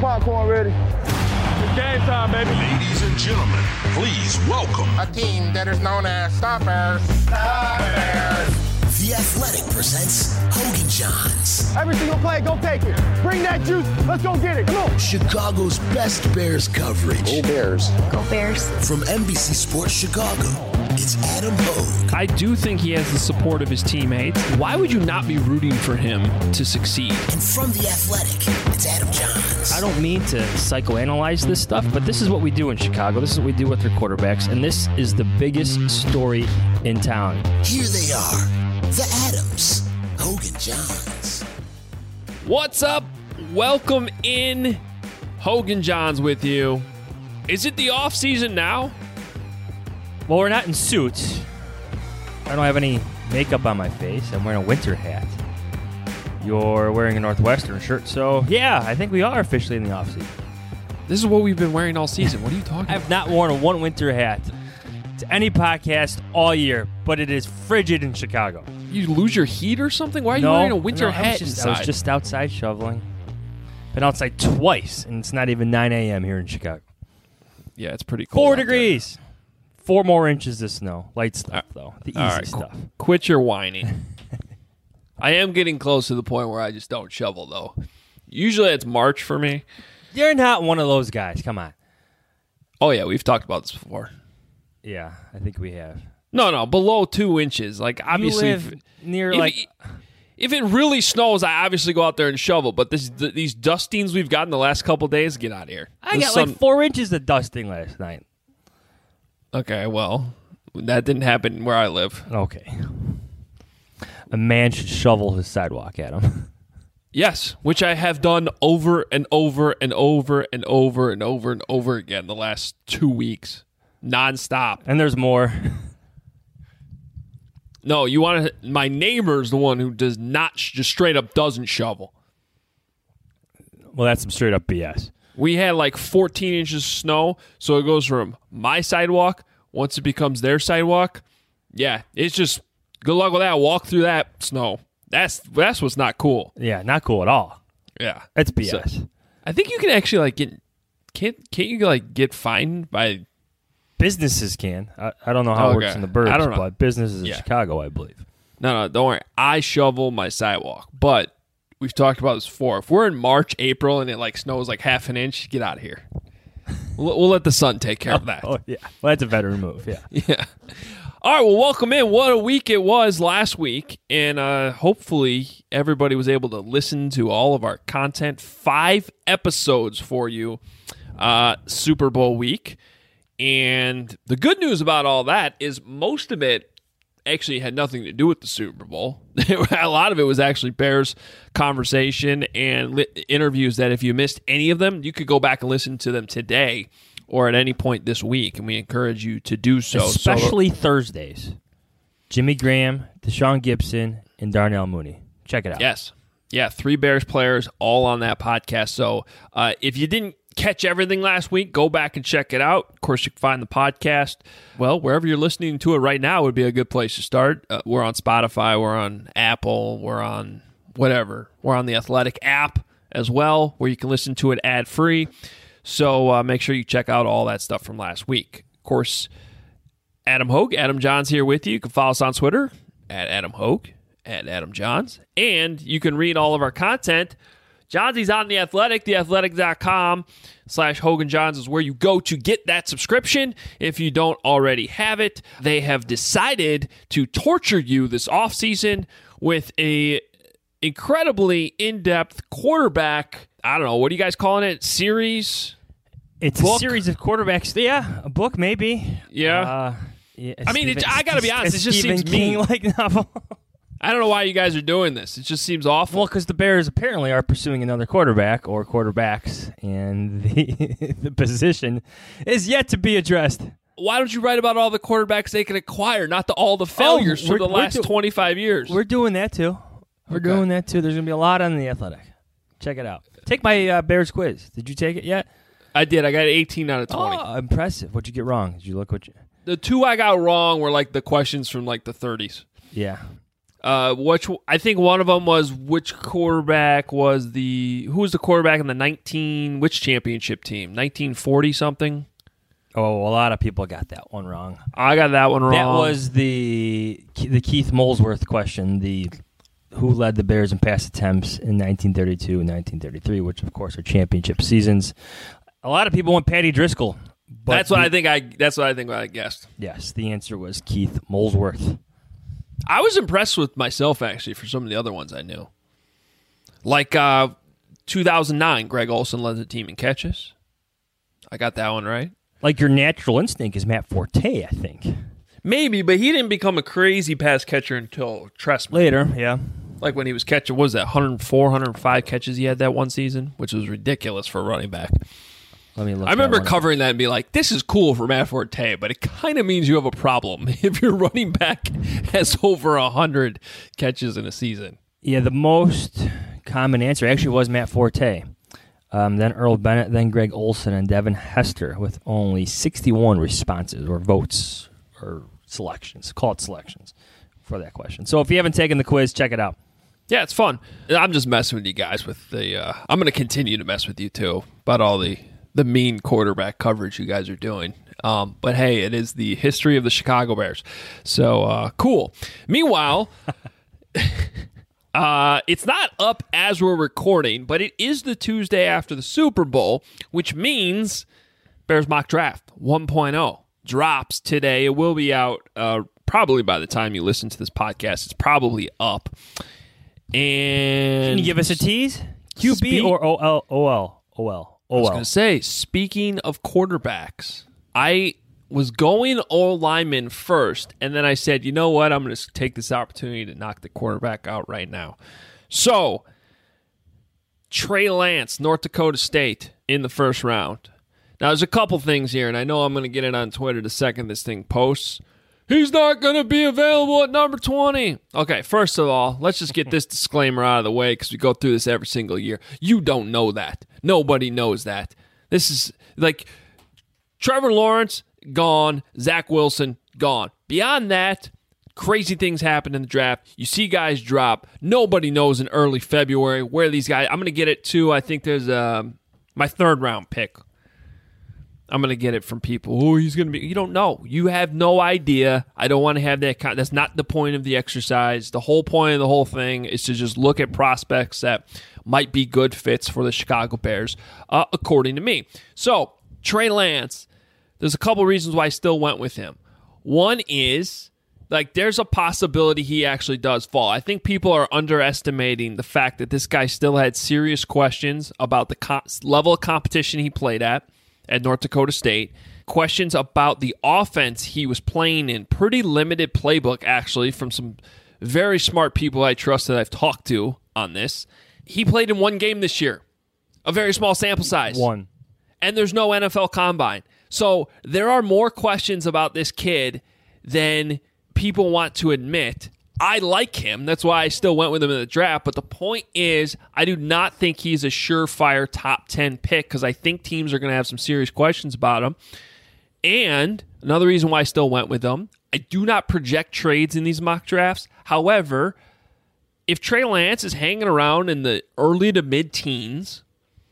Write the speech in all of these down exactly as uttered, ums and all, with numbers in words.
popcorn ready. It's game time, baby. Ladies and gentlemen, please welcome a team that is known as the Bears. The Bears. The Athletic presents Hogan Johns. Every single play, go take it. Bring that juice. Let's go get it. Come on. Chicago's best Bears coverage. Go Bears. Go Bears. From N B C Sports Chicago, it's Adam Hogue. I do think he has the support of his teammates. Why would you not be rooting for him to succeed? And from The Athletic, it's Adam Johns. I don't mean to psychoanalyze this stuff, but this is what we do in Chicago. This is what we do with their quarterbacks, and this is the biggest story in town. Here they are. The Adams, Hogan Johns. What's up? Welcome in. Hogan Johns with you. Is it the off season now? Well, we're not in suits. I don't have any makeup on my face. I'm wearing a winter hat. You're wearing a Northwestern shirt, so yeah, I think we are officially in the off season. This is what we've been wearing all season. What are you talking about? I've not worn a one winter hat to any podcast all year, but it is frigid in Chicago. You lose your heat or something? Why are you no, wearing a winter no, I hat was just, inside? I was just outside shoveling. Been outside twice, and it's not even nine a.m. here in Chicago. Yeah, it's pretty cold. Four out degrees. Four more inches of snow. Light stuff, though. The easy all right, stuff. qu- quit your whining. I am getting close to the point where I just don't shovel, though. Usually it's March for me. You're not one of those guys. Come on. Oh, yeah, we've talked about this before. Yeah, I think we have. No, no, below two inches. Like, obviously, you live if, near if, like. if it really snows, I obviously go out there and shovel. But this, th- these dustings we've gotten the last couple of days, get out of here. I The got sun- like four inches of dusting last night. Okay, well, that didn't happen where I live. Okay. A man should shovel his sidewalk, Adam. Yes, which I have done over and over and over and over and over and over again the last two weeks, nonstop. And there's more. No, you want to? My neighbor's the one who does not, just straight up doesn't shovel. Well, that's some straight up B S. We had like fourteen inches of snow, so it goes from my sidewalk. Once it becomes their sidewalk, yeah, it's just good luck with that. Walk through that snow. That's that's what's not cool. Yeah, not cool at all. Yeah, That's B S. So, I think you can actually like get can't can't you like get fined by Businesses can. I, I don't know how Okay. it works in the burbs, I don't know. but businesses Yeah. in Chicago, I believe. no no don't worry. I shovel my sidewalk, but we've talked about this before. If we're in March, April, and it like snows like half an inch, get out of here. We'll, we'll let the sun take care of that. Oh, yeah. Well, that's a veteran move, yeah. Yeah. All right, well, welcome in. What a week it was last week, and uh, hopefully everybody was able to listen to all of our content. Five episodes for you, uh, Super Bowl week. And the good news about all that is most of it actually had nothing to do with the Super Bowl. A lot of it was actually Bears conversation and li- interviews that if you missed any of them, you could go back and listen to them today or at any point this week, and we encourage you to do so. Especially so, Thursdays. Jimmy Graham, Deshaun Gibson, and Darnell Mooney. Check it out. Yes. Yeah, three Bears players all on that podcast. So uh, if you didn't catch everything last week, go back and check it out. Of course, you can find the podcast, well, wherever you're listening to it right now would be a good place to start. Uh, we're on Spotify, we're on Apple, we're on whatever. We're on the Athletic app as well, where you can listen to it ad-free. So uh, make sure you check out all that stuff from last week. Of course, Adam Hogue, Adam Johns here with you. You can follow us on Twitter at Adam Hogue, at Adam Johns. And you can read all of our content. Johnsy's on The Athletic, theathletic.com slash Hogan Johns is where you go to get that subscription if you don't already have it. They have decided to torture you this offseason with a incredibly in-depth quarterback, I don't know, what are you guys calling it, series? It's book? a series of quarterbacks. Yeah, a book maybe. Yeah. Uh, yeah I mean, it, I got to be honest, a it just Stephen seems mean. King-like novel. I don't know why you guys are doing this. It just seems awful. Well, because the Bears apparently are pursuing another quarterback or quarterbacks, and the the position is yet to be addressed. Why don't you write about all the quarterbacks they can acquire, not the, all the failures Oh, for we're- the we're last do- twenty-five years? We're doing that too. We're Okay. doing that too. There's going to be a lot on The Athletic. Check it out. Take my uh, Bears quiz. Did you take it yet? I did. I got eighteen out of twenty. Oh, impressive. What'd you get wrong? Did you look what you... The two I got wrong were like the questions from like the thirties. Yeah. Uh, which I think one of them was which quarterback was the who was the quarterback in the nineteen which championship team nineteen forty something. Oh, a lot of people got that one wrong. I got that one wrong. That was the the Keith Molesworth question. The who led the Bears in pass attempts in nineteen thirty-two and nineteen thirty-three, which of course are championship seasons. A lot of people went Patty Driscoll. But that's what the, I think. I that's what I think. I guessed. Yes, the answer was Keith Molesworth. I was impressed with myself, actually, for some of the other ones I knew. Like uh, two thousand nine, Greg Olsen led the team in catches. I got that one right. Like your natural instinct is Matt Forte, I think. Maybe, but he didn't become a crazy pass catcher until Trestman. Later, yeah. Like when he was catching, what was that, one oh four, one oh five catches he had that one season, which was ridiculous for a running back. Let me look. I remember covering that and be like, this is cool for Matt Forte, but it kind of means you have a problem if your running back has over one hundred catches in a season. Yeah, the most common answer actually was Matt Forte. Um, then Earl Bennett, then Greg Olsen, and Devin Hester with only sixty-one responses or votes or selections. Call it selections for that question. So if you haven't taken the quiz, check it out. Yeah, it's fun. I'm just messing with you guys with the uh, – I'm going to continue to mess with you, too, about all the – the mean quarterback coverage you guys are doing. Um, but, hey, it is the history of the Chicago Bears. So, uh, cool. Meanwhile, uh, it's not up as we're recording, but it is the Tuesday after the Super Bowl, which means Bears Mock Draft one point oh drops today. It will be out uh, probably by the time you listen to this podcast. It's probably up. And Can you give us a tease? Q B Spe- or O L? O L? O L. I was going to say, speaking of quarterbacks, I was going O lineman first, and then I said, you know what? I'm going to take this opportunity to knock the quarterback out right now. So, Trey Lance, North Dakota State, in the first round. Now, there's a couple things here, and I know I'm going to get it on Twitter the second this thing posts. He's not going to be available at number twenty. Okay, first of all, let's just get this disclaimer out of the way because we go through this every single year. You don't know that. Nobody knows that. This is like Trevor Lawrence, gone. Zach Wilson, gone. Beyond that, crazy things happen in the draft. You see guys drop. Nobody knows in early February where these guys, I'm going to get it to, I think there's um, my third round pick. I'm going to get it from people. Oh, he's going to be. You don't know. You have no idea. I don't want to have that. Con- That's not the point of the exercise. The whole point of the whole thing is to just look at prospects that might be good fits for the Chicago Bears, uh, according to me. So, Trey Lance, there's a couple reasons why I still went with him. One is, like, there's a possibility he actually does fall. I think people are underestimating the fact that this guy still had serious questions about the co- level of competition he played at. At North Dakota State. Questions about the offense he was playing in. Pretty limited playbook, actually, from some very smart people I trust that I've talked to on this. He played in one game this year. A very small sample size. One. And there's no N F L Combine. So there are more questions about this kid than people want to admit. I like him. That's why I still went with him in the draft. But the point is, I do not think he's a surefire top ten pick because I think teams are going to have some serious questions about him. And another reason why I still went with him, I do not project trades in these mock drafts. However, if Trey Lance is hanging around in the early to mid-teens,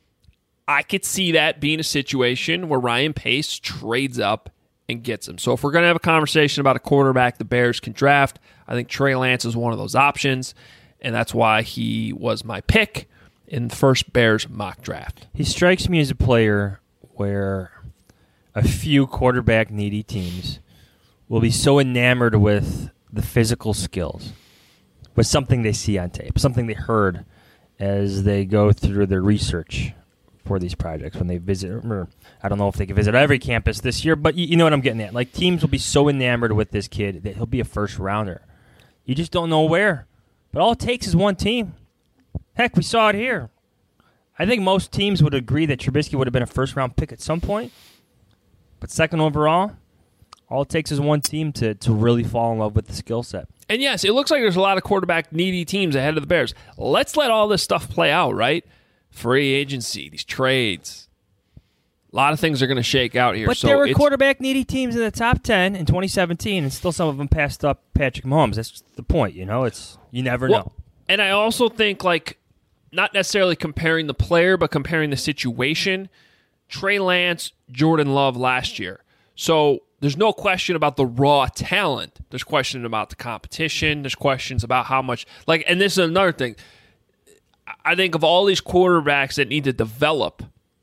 I could see that being a situation where Ryan Pace trades up and gets him. So if we're going to have a conversation about a quarterback the Bears can draft, I think Trey Lance is one of those options, and that's why he was my pick in the first Bears mock draft. He strikes me as a player where a few quarterback-needy teams will be so enamored with the physical skills, with something they see on tape, something they heard as they go through their research for these projects when they visit. Or I don't know if they can visit every campus this year, but you, you know what I'm getting at. Like, teams will be so enamored with this kid that he'll be a first rounder. You just don't know where. But all it takes is one team. Heck, we saw it here. I think most teams would agree that Trubisky would have been a first round pick at some point. But second overall, all it takes is one team to, to really fall in love with the skill set. And yes, it looks like there's a lot of quarterback needy teams ahead of the Bears. Let's let all this stuff play out, right? Free agency, these trades. A lot of things are going to shake out here. But so there were it's, quarterback needy teams in the top ten in twenty seventeen, and still some of them passed up Patrick Mahomes. That's the point, you know. It's you never well, know. And I also think, like, not necessarily comparing the player, but comparing the situation. Trey Lance, Jordan Love last year. So there's no question about the raw talent. There's questions about the competition. There's questions about how much, like, and this is another thing. I think of all these quarterbacks that need to develop,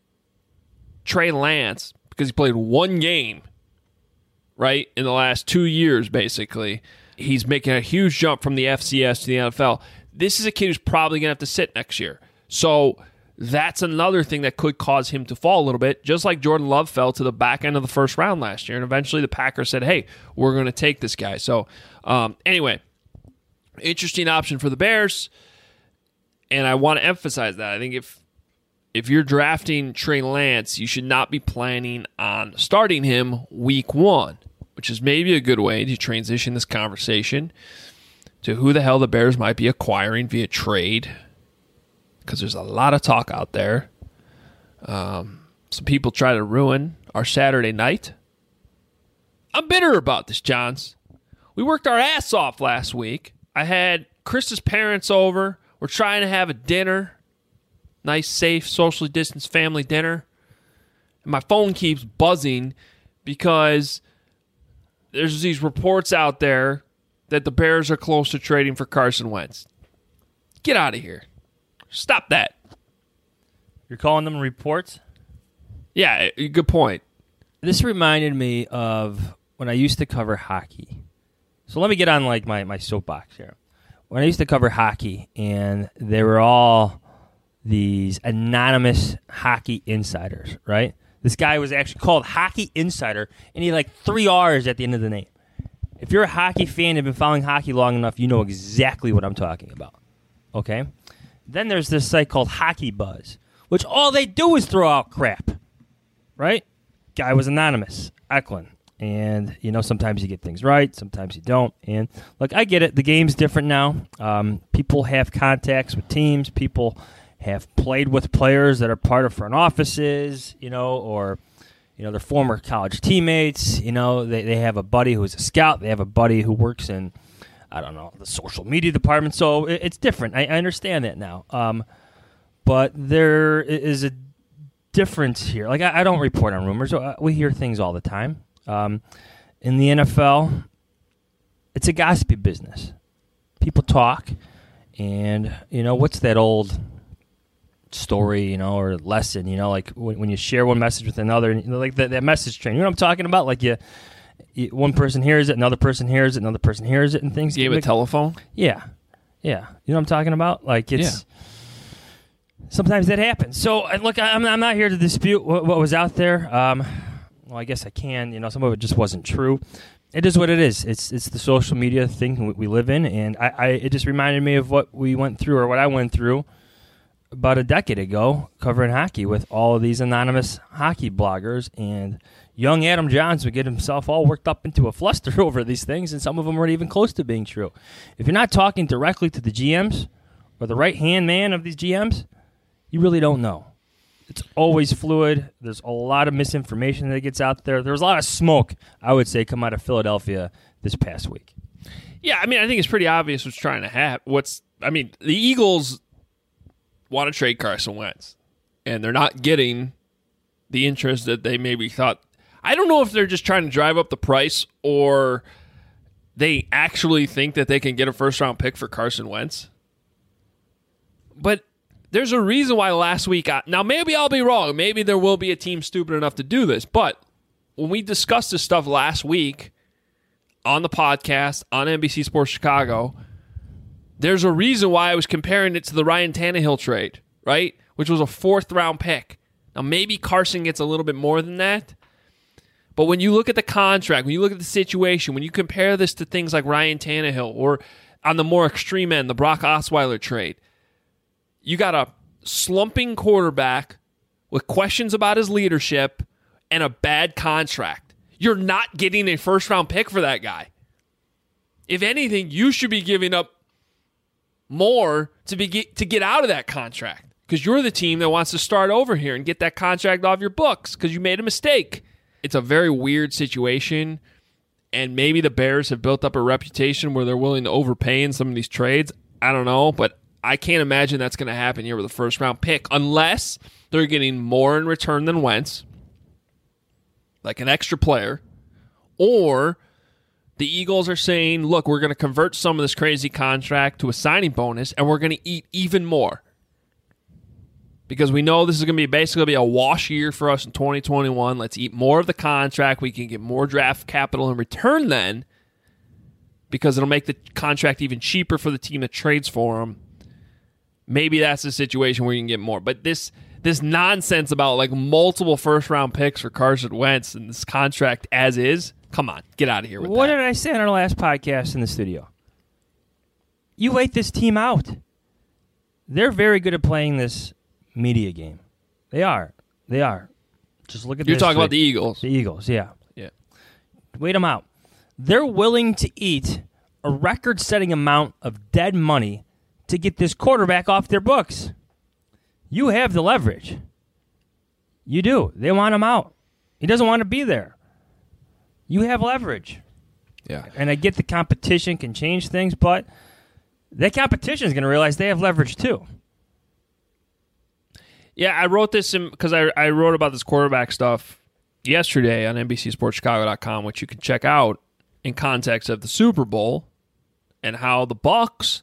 Trey Lance, because he played one game, right, in the last two years, basically, he's making a huge jump from the F C S to the N F L. This is a kid who's probably going to have to sit next year. So that's another thing that could cause him to fall a little bit, just like Jordan Love fell to the back end of the first round last year. And eventually the Packers said, hey, we're going to take this guy. So um, anyway, interesting option for the Bears. And I want to emphasize that. I think if if you're drafting Trey Lance, you should not be planning on starting him week one, which is maybe a good way to transition this conversation to who the hell the Bears might be acquiring via trade, because there's a lot of talk out there. Um, some people try to ruin our Saturday night. I'm bitter about this, Johns. We worked our ass off last week. I had Chris's parents over. We're trying to have a dinner. Nice, safe, socially distanced family dinner. And my phone keeps buzzing because there's these reports out there that the Bears are close to trading for Carson Wentz. Get out of here. Stop that. You're calling them reports? Yeah, good point. This reminded me of when I used to cover hockey. So let me get on like my, my soapbox here. When I used to cover hockey, and they were all these anonymous hockey insiders, right? This guy was actually called Hockey Insider, and he had like three R's at the end of the name. If you're a hockey fan and have been following hockey long enough, you know exactly what I'm talking about, okay? Then there's this site called Hockey Buzz, which all they do is throw out crap, right? Guy was anonymous, Eklund. And, you know, sometimes you get things right, sometimes you don't. And, look, I get it. The game's different now. Um, people have contacts with teams. People have played with players that are part of front offices, you know, or, you know, their former college teammates. You know, they, they have a buddy who's a scout. They have a buddy who works in, I don't know, the social media department. So it, it's different. I, I understand that now. Um, but there is a difference here. Like, I, I don't report on rumors. We hear things all the time. Um, in the N F L, it's a gossipy business. People talk, and, you know, what's that old story, you know, or lesson, you know, like when, when you share one message with another, you know, like that, that message train. You know what I'm talking about? Like you, you, one person hears it, another person hears it, another person hears it, and things. Game of telephone? Yeah. Yeah. You know what I'm talking about? Like it's... Yeah. Sometimes that happens. So, look, I'm, I'm not here to dispute what, what was out there. Um... Well, I guess I can. You know, some of it just wasn't true. It is what it is. It's it's the social media thing we live in, and I, I it just reminded me of what we went through, or what I went through about a decade ago covering hockey with all of these anonymous hockey bloggers, and young Adam Johns would get himself all worked up into a fluster over these things, and some of them weren't even close to being true. If you're not talking directly to the G Ms or the right-hand man of these G Ms, you really don't know. It's always fluid. There's a lot of misinformation that gets out there. There's a lot of smoke, I would say, come out of Philadelphia this past week. Yeah, I mean, I think it's pretty obvious what's trying to happen. What's, I mean, the Eagles want to trade Carson Wentz, and they're not getting the interest that they maybe thought. I don't know if they're just trying to drive up the price, or they actually think that they can get a first-round pick for Carson Wentz. But there's a reason why last week, I, now maybe I'll be wrong. Maybe there will be a team stupid enough to do this. But when we discussed this stuff last week on the podcast, on N B C Sports Chicago, there's a reason why I was comparing it to the Ryan Tannehill trade, right? Which was a fourth round pick. Now maybe Carson gets a little bit more than that. But when you look at the contract, when you look at the situation, when you compare this to things like Ryan Tannehill, or on the more extreme end, the Brock Osweiler trade, you got a slumping quarterback with questions about his leadership and a bad contract. You're not getting a first-round pick for that guy. If anything, you should be giving up more to be to get out of that contract, because you're the team that wants to start over here and get that contract off your books because you made a mistake. It's a very weird situation, and maybe the Bears have built up a reputation where they're willing to overpay in some of these trades. I don't know, but I can't imagine that's going to happen here with a first-round pick unless they're getting more in return than Wentz, like an extra player, or the Eagles are saying, look, we're going to convert some of this crazy contract to a signing bonus, and we're going to eat even more. Because we know this is going to be basically be a wash year for us in twenty twenty-one. Let's eat more of the contract. We can get more draft capital in return then, because it'll make the contract even cheaper for the team that trades for him. Maybe that's the situation where you can get more. But this this nonsense about like multiple first-round picks for Carson Wentz and this contract as is, come on, get out of here with what that. What did I say on our last podcast in the studio? You wait this team out. They're very good at playing this media game. They are. They are. Just look at You're this. talking about the Eagles. The Eagles, yeah. Yeah. Wait them out. They're willing to eat a record-setting amount of dead money to get this quarterback off their books. You have the leverage. You do. They want him out. He doesn't want to be there. You have leverage. Yeah. And I get the competition can change things, but that competition is going to realize they have leverage too. Yeah, I wrote this in because I, I wrote about this quarterback stuff yesterday on N B C Sports Chicago dot com, which you can check out in context of the Super Bowl and how the Bucs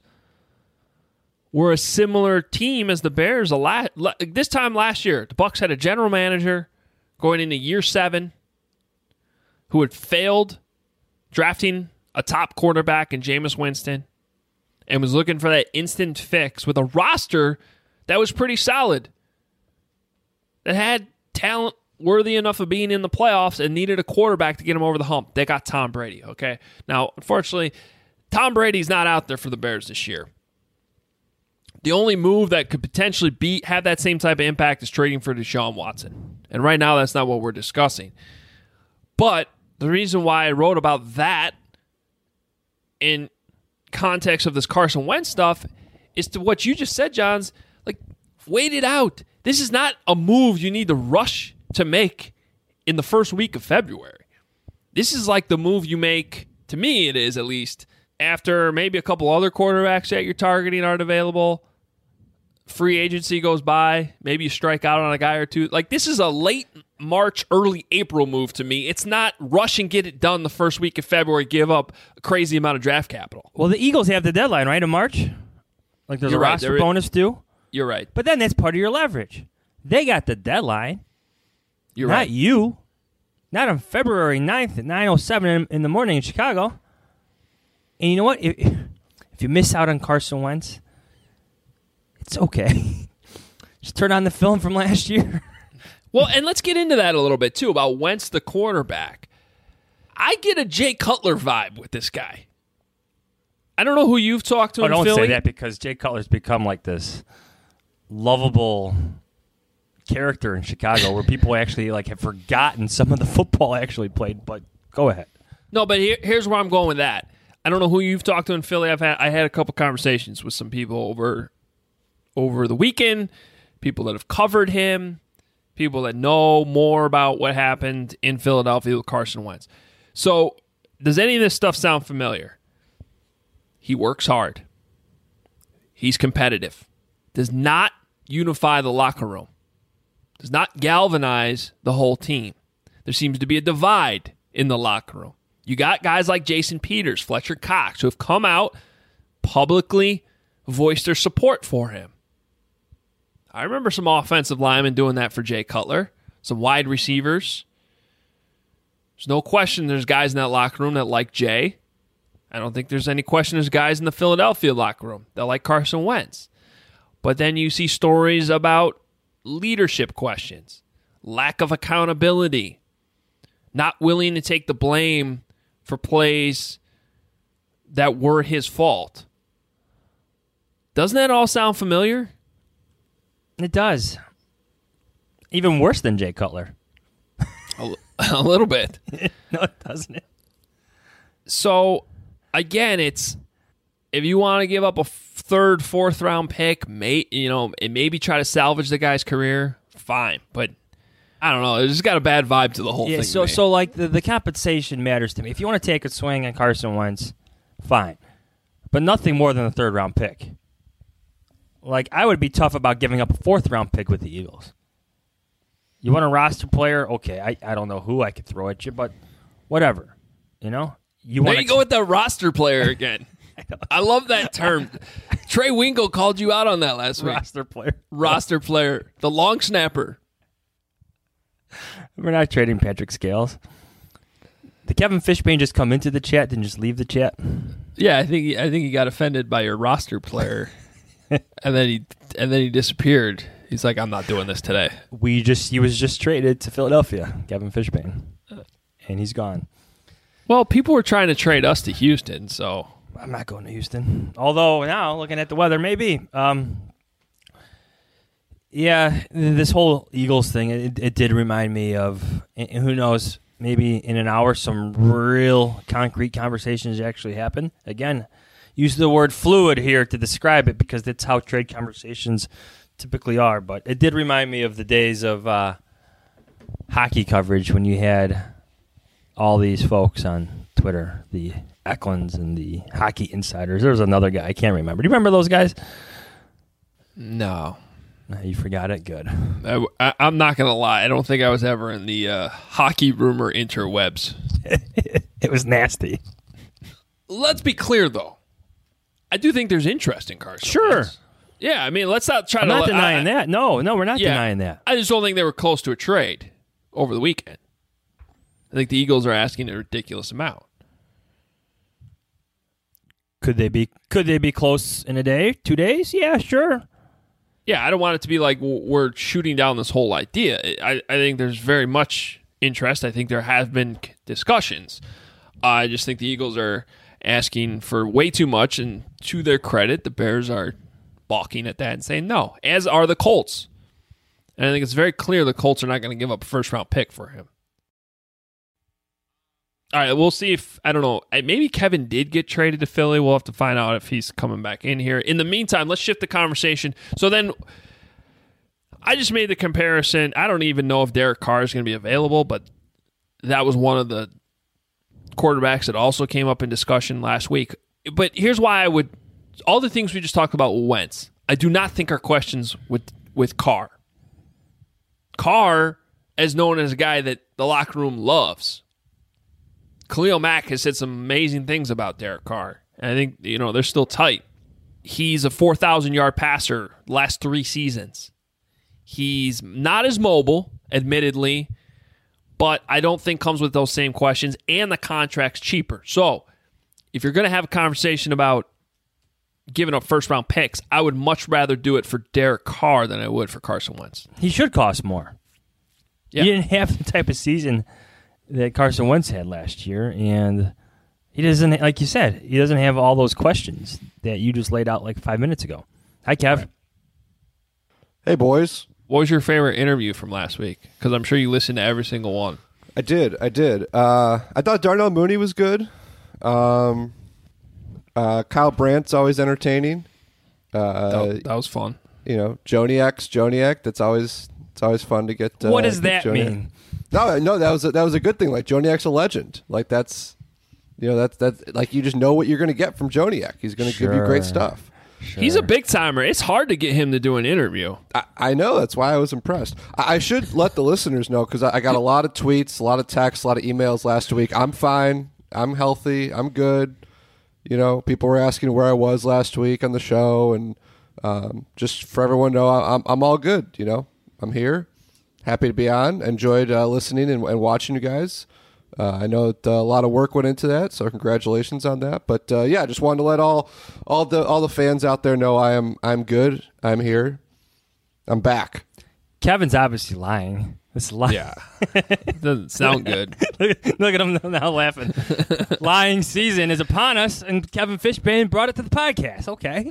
were a similar team as the Bears. A lot, this time last year, the Bucs had a general manager going into year seven who had failed drafting a top quarterback in Jameis Winston and was looking for that instant fix with a roster that was pretty solid, that had talent worthy enough of being in the playoffs and needed a quarterback to get him over the hump. They got Tom Brady, okay? Now, unfortunately, Tom Brady's not out there for the Bears this year. The only move that could potentially be have that same type of impact is trading for Deshaun Watson. And right now, that's not what we're discussing. But the reason why I wrote about that in context of this Carson Wentz stuff is to what you just said, Johns. Like, wait it out. This is not a move you need to rush to make in the first week of February. This is like the move you make, to me it is at least, after maybe a couple other quarterbacks that you're targeting aren't available. Free agency goes by. Maybe you strike out on a guy or two. Like, this is a late March, early April move to me. It's not rush and get it done the first week of February, give up a crazy amount of draft capital. Well, the Eagles have the deadline, right, in March? Like there's You're a right. roster There- bonus due? You're right. But then that's part of your leverage. They got the deadline. You're not right. you. Not on February ninth at nine oh seven in, in the morning in Chicago. And you know what? If, if you miss out on Carson Wentz, it's okay. Just turn on the film from last year. Well, and let's get into that a little bit, too, about Wentz, the quarterback. I get a Jay Cutler vibe with this guy. I don't know who you've talked to Oh, in don't Philly. say that because Jay Cutler's become like this lovable character in Chicago where people actually like have forgotten some of the football actually played. But go ahead. No, but here, here's where I'm going with that. I don't know who you've talked to in Philly. I've had I had a couple conversations with some people over over the weekend, people that have covered him, people that know more about what happened in Philadelphia with Carson Wentz. So, does any of this stuff sound familiar? He works hard. He's competitive. Does not unify the locker room. Does not galvanize the whole team. There seems to be a divide in the locker room. You got guys like Jason Peters, Fletcher Cox, who have come out, publicly voiced their support for him. I remember some offensive linemen doing that for Jay Cutler, some wide receivers. There's no question there's guys in that locker room that like Jay. I don't think there's any question there's guys in the Philadelphia locker room that like Carson Wentz. But then you see stories about leadership questions, lack of accountability, not willing to take the blame for plays that were his fault. Doesn't that all sound familiar? It does. Even worse than Jay Cutler. A, a little bit. No, it doesn't it? So, again, it's if you want to give up a third, fourth round pick, may, you know, and maybe try to salvage the guy's career, fine. But I don't know. It just got a bad vibe to the whole yeah, thing. So, so like the, the compensation matters to me. If you want to take a swing on Carson Wentz, fine, but nothing more than a third round pick. Like I would be tough about giving up a fourth round pick with the Eagles. You want a roster player? Okay, I, I don't know who I could throw at you, but whatever. You know, you there want you go with the roster player again. I love that term. Trey Wingo called you out on that last week. Roster player, roster player, the long snapper. We're not trading Patrick Scales. Did Kevin Fishbane just come into the chat and just leave the chat? Yeah, I think he, I think he got offended by your roster player, and then he and then he disappeared. He's like, I'm not doing this today. We just he was just traded to Philadelphia, Kevin Fishbane, and he's gone. Well, people were trying to trade us to Houston, so I'm not going to Houston. Although now, looking at the weather, maybe. Um, yeah, this whole Eagles thing, it, it did remind me of, and who knows, maybe in an hour, some real concrete conversations actually happen. Again, use the word fluid here to describe it because that's how trade conversations typically are. But it did remind me of the days of uh, hockey coverage when you had all these folks on Twitter, the Eklunds and the Hockey Insiders. There was another guy. I can't remember. Do you remember those guys? No. No, you forgot it? Good. I, I, I'm not going to lie. I don't think I was ever in the uh, hockey rumor interwebs. It was nasty. Let's be clear, though. I do think there's interest in Carson Sure. Wentz. Yeah, I mean, let's not try I'm to... not denying I, that. No, no, we're not yeah, denying that. I just don't think they were close to a trade over the weekend. I think the Eagles are asking a ridiculous amount. Could they be Could they be close in a day? Two days? Yeah, sure. Yeah, I don't want it to be like we're shooting down this whole idea. I, I think there's very much interest. I think there have been discussions. Uh, I just think the Eagles are asking for way too much, and to their credit, the Bears are balking at that and saying no, as are the Colts. And I think it's very clear the Colts are not going to give up a first-round pick for him. All right, we'll see if, I don't know, maybe Kevin did get traded to Philly. We'll have to find out if he's coming back in here. In the meantime, let's shift the conversation. So then, I just made the comparison. I don't even know if Derek Carr is going to be available, but that was one of the quarterbacks that also came up in discussion last week. But here's why I would, all the things we just talked about with Wentz, I do not think are questions with, with Carr. Carr is known as a guy that the locker room loves. Khalil Mack has said some amazing things about Derek Carr. And I think, you know, they're still tight. He's a four thousand yard passer last three seasons. He's not as mobile, admittedly, but I don't think comes with those same questions, and the contract's cheaper. So if you're going to have a conversation about giving up first-round picks, I would much rather do it for Derek Carr than I would for Carson Wentz. He should cost more. Yeah. He didn't have the type of season that Carson Wentz had last year, and he doesn't, like you said, he doesn't have all those questions that you just laid out like five minutes ago. Hi, Kev. Right. Hey, boys. What was your favorite interview from last week? Because I'm sure you listened to every single one. I did. I did. Uh, I thought Darnell Mooney was good. Um, uh, Kyle Brandt's always entertaining. Uh, that, that was fun. You know, Joniak's Joniak. That's always it's always fun to get. Uh, what does get that Joniak. mean? No, no, that was a, that was a good thing. Like Joniak's a legend. Like that's, you know, that's that's like you just know what you're going to get from Joniak. He's going to Sure. give you great stuff. Sure. He's a big timer. It's hard to get him to do an interview. I, I know. That's why I was impressed. I, I should let the listeners know because I, I got a lot of tweets, a lot of texts, a lot of emails last week. I'm fine. I'm healthy. I'm good. You know, people were asking where I was last week on the show, and um, just for everyone to know, I'm I'm all good. You know, I'm here. Happy to be on. Enjoyed uh, listening and, and watching you guys. Uh, I know that, uh, a lot of work went into that, so congratulations on that. But uh, yeah, just wanted to let all all the all the fans out there know I am I'm good. I'm here. I'm back. Kevin's obviously lying. It's lying. Yeah. Doesn't sound good. look, look at him now laughing. Lying season is upon us, and Kevin Fishbane brought it to the podcast. Okay.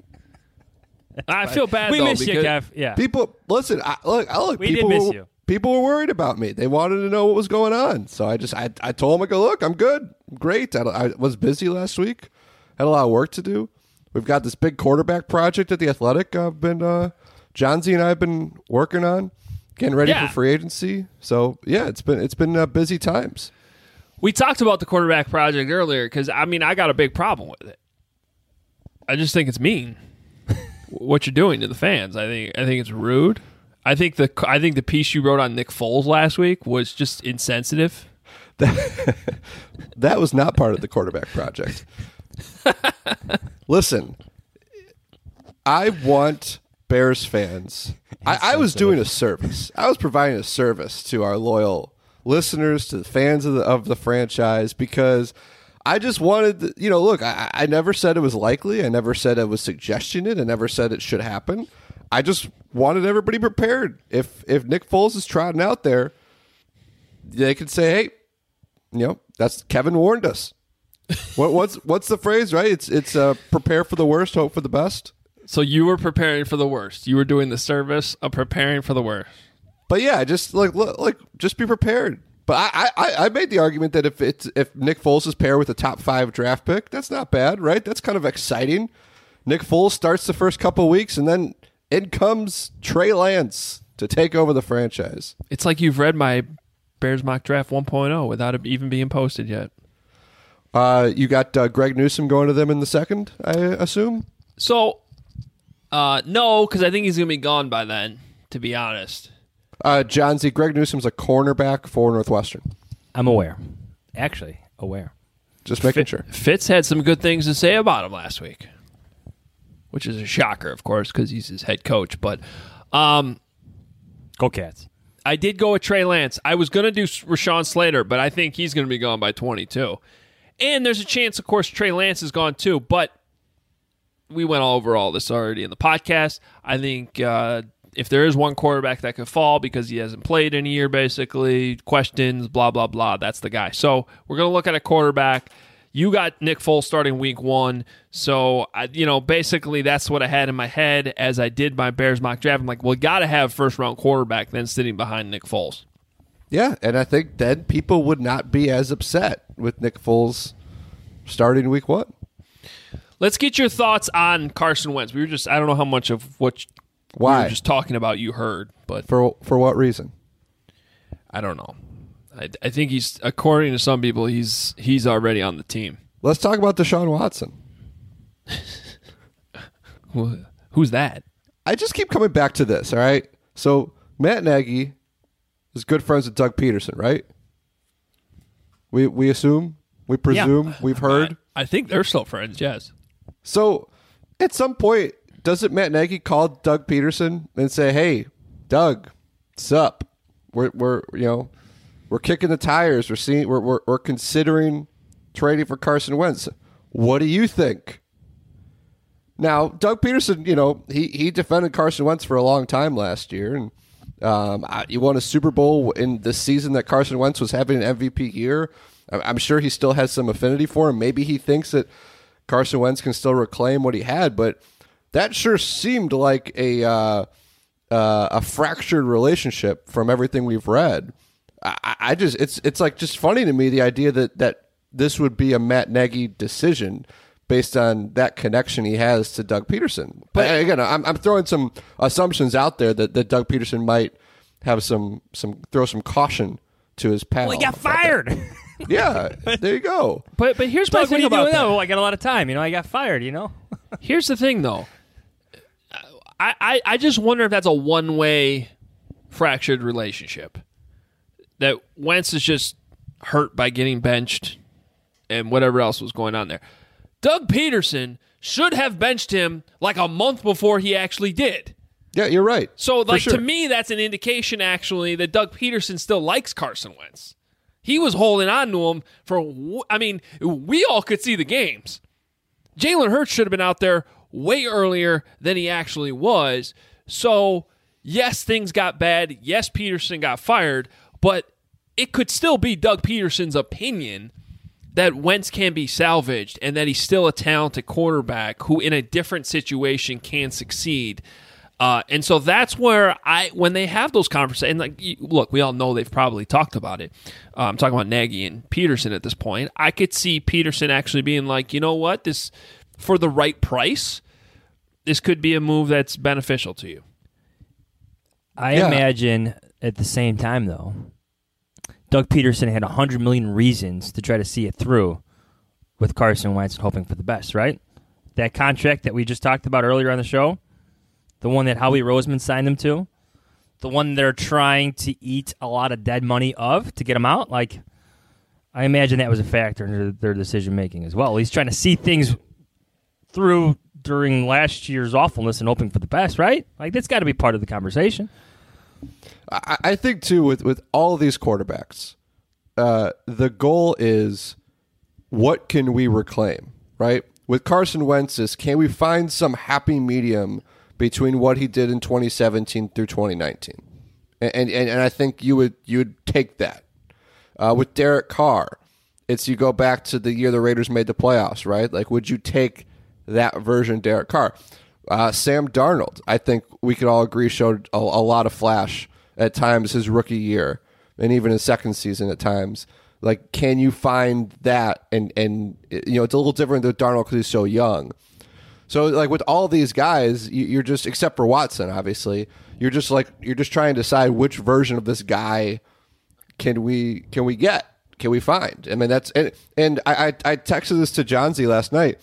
I feel bad, we though. miss you, because Kev. Yeah. People, listen. I, look, I look. We people did miss were, you. People were worried about me. They wanted to know what was going on. So I just, I, I told them, I go, look, I'm good, great. I, I was busy last week, had a lot of work to do. We've got this big quarterback project at the Athletic. I've been uh, Johnsy and I have been working on, getting ready Yeah. for free agency. So yeah, it's been it's been uh, busy times. We talked about the quarterback project earlier because, I mean, I got a big problem with it. I just think it's mean what you're doing to the fans. I think I think it's rude. I think the I think the piece you wrote on Nick Foles last week was just insensitive. That, that was not part of the quarterback project. Listen, I want Bears fans. I, I was doing a service. I was providing a service to our loyal listeners, to the fans of the of the franchise, because I just wanted, to, you know, look, I, I never said it was likely. I never said I was suggesting it. I never said it should happen. I just wanted everybody prepared. If if Nick Foles is trotting out there, they could say, hey, you know, that's Kevin warned us. what, what's what's the phrase, right? It's it's uh, prepare for the worst, hope for the best. So you were preparing for the worst. You were doing the service of preparing for the worst. But yeah, just like look, like just be prepared. But I, I, I made the argument that if it's if Nick Foles is paired with a top five draft pick, that's not bad, right? That's kind of exciting. Nick Foles starts the first couple weeks, and then in comes Trey Lance to take over the franchise. It's like you've read my Bears mock draft one point oh without it even being posted yet. Uh, you got uh, Greg Newsome going to them in the second, I assume? So, uh, no, because I think he's going to be gone by then, to be honest. Uh, John Z. Greg Newsome's a cornerback for Northwestern. I'm aware. Actually, aware. Just making Fit, sure. Fitz had some good things to say about him last week, which is a shocker, of course, because he's his head coach. But um, Go Cats. I did go with Trey Lance. I was going to do Rashawn Slater, but I think he's going to be gone by twenty-two. And there's a chance, of course, Trey Lance is gone too. But we went over all this already in the podcast. I think uh, if there is one quarterback that could fall because he hasn't played in a year, basically, questions, blah, blah, blah, that's the guy. So we're going to look at a quarterback. You got Nick Foles starting week one. So, I, you know, basically that's what I had in my head as I did my Bears mock draft. I'm like, well, got to have first-round quarterback then sitting behind Nick Foles. Yeah, and I think then people would not be as upset with Nick Foles starting week one. Let's get your thoughts on Carson Wentz. We were just, I don't know how much of what Why? we were just talking about you heard, but For for what reason? I don't know. I, I think he's, according to some people, he's he's already on the team. Let's talk about Deshaun Watson. Who- Who's that? I just keep coming back to this, all right? So Matt Nagy is good friends with Doug Peterson, right? We we assume, we presume, we've heard. I, I think they're still friends, yes. So at some point, doesn't Matt Nagy call Doug Peterson and say, "Hey, Doug, what's up? We're we're you know we're kicking the tires. We're seeing we're we're, we're considering trading for Carson Wentz. What do you think?" Now, Doug Peterson, you know, he he defended Carson Wentz for a long time last year, and um, he won a Super Bowl in the season that Carson Wentz was having an M V P year. I'm sure he still has some affinity for him. Maybe he thinks that Carson Wentz can still reclaim what he had, but that sure seemed like a uh, uh, a fractured relationship from everything we've read. I, I just it's it's like just funny to me the idea that that this would be a Matt Nagy decision based on that connection he has to Doug Peterson. But again, I'm I'm throwing some assumptions out there that, that Doug Peterson might have some some throw some caution to his pal. Well, he got fired. Yeah, there you go. But but here's my Doug, what are thing you about doing that. now? Well, I got a lot of time. You know, I got fired, you know? Here's the thing, though. I, I, I just wonder if that's a one-way fractured relationship. That Wentz is just hurt by getting benched and whatever else was going on there. Doug Peterson should have benched him like a month before he actually did. Yeah, you're right. So, For like sure. to me, that's an indication, actually, that Doug Peterson still likes Carson Wentz. He was holding on to him for, I mean, we all could see the games. Jalen Hurts should have been out there way earlier than he actually was. So, yes, things got bad. Yes, Peterson got fired. But it could still be Doug Peterson's opinion that Wentz can be salvaged and that he's still a talented quarterback who, in a different situation, can succeed. Uh, and so that's where I, when they have those conversations, and like, you- look, we all know they've probably talked about it. Uh, I'm talking about Nagy and Peterson at this point. I could see Peterson actually being like, you know what, this for the right price, this could be a move that's beneficial to you. I Yeah. imagine at the same time, though, Doug Peterson had one hundred million reasons to try to see it through with Carson Wentz and hoping for the best, right? That contract that we just talked about earlier on the show, the one that Howie Roseman signed him to, the one they're trying to eat a lot of dead money of to get him out, like, I imagine that was a factor in their, their decision-making as well. He's trying to see things through during last year's awfulness and hoping for the best, right? Like, that's got to be part of the conversation. I, I think too with with all of these quarterbacks, uh, the goal is what can we reclaim, right? With Carson Wentz, is can we find some happy medium between what he did in twenty seventeen through twenty nineteen, and and, and I think you would you would take that. Uh, with Derek Carr, it's you go back to the year the Raiders made the playoffs, right? Like, would you take that version of Derek Carr? Uh, Sam Darnold, I think we could all agree, showed a, a lot of flash at times his rookie year and even his second season at times. Like, can you find that? And, and you know, it's a little different with Darnold because he's so young. So, like, with all these guys, you, you're just, except for Watson, obviously, you're just like, you're just trying to decide which version of this guy can we can we get? Can we find? I mean, that's, and, and I, I, I texted this to John Z last night.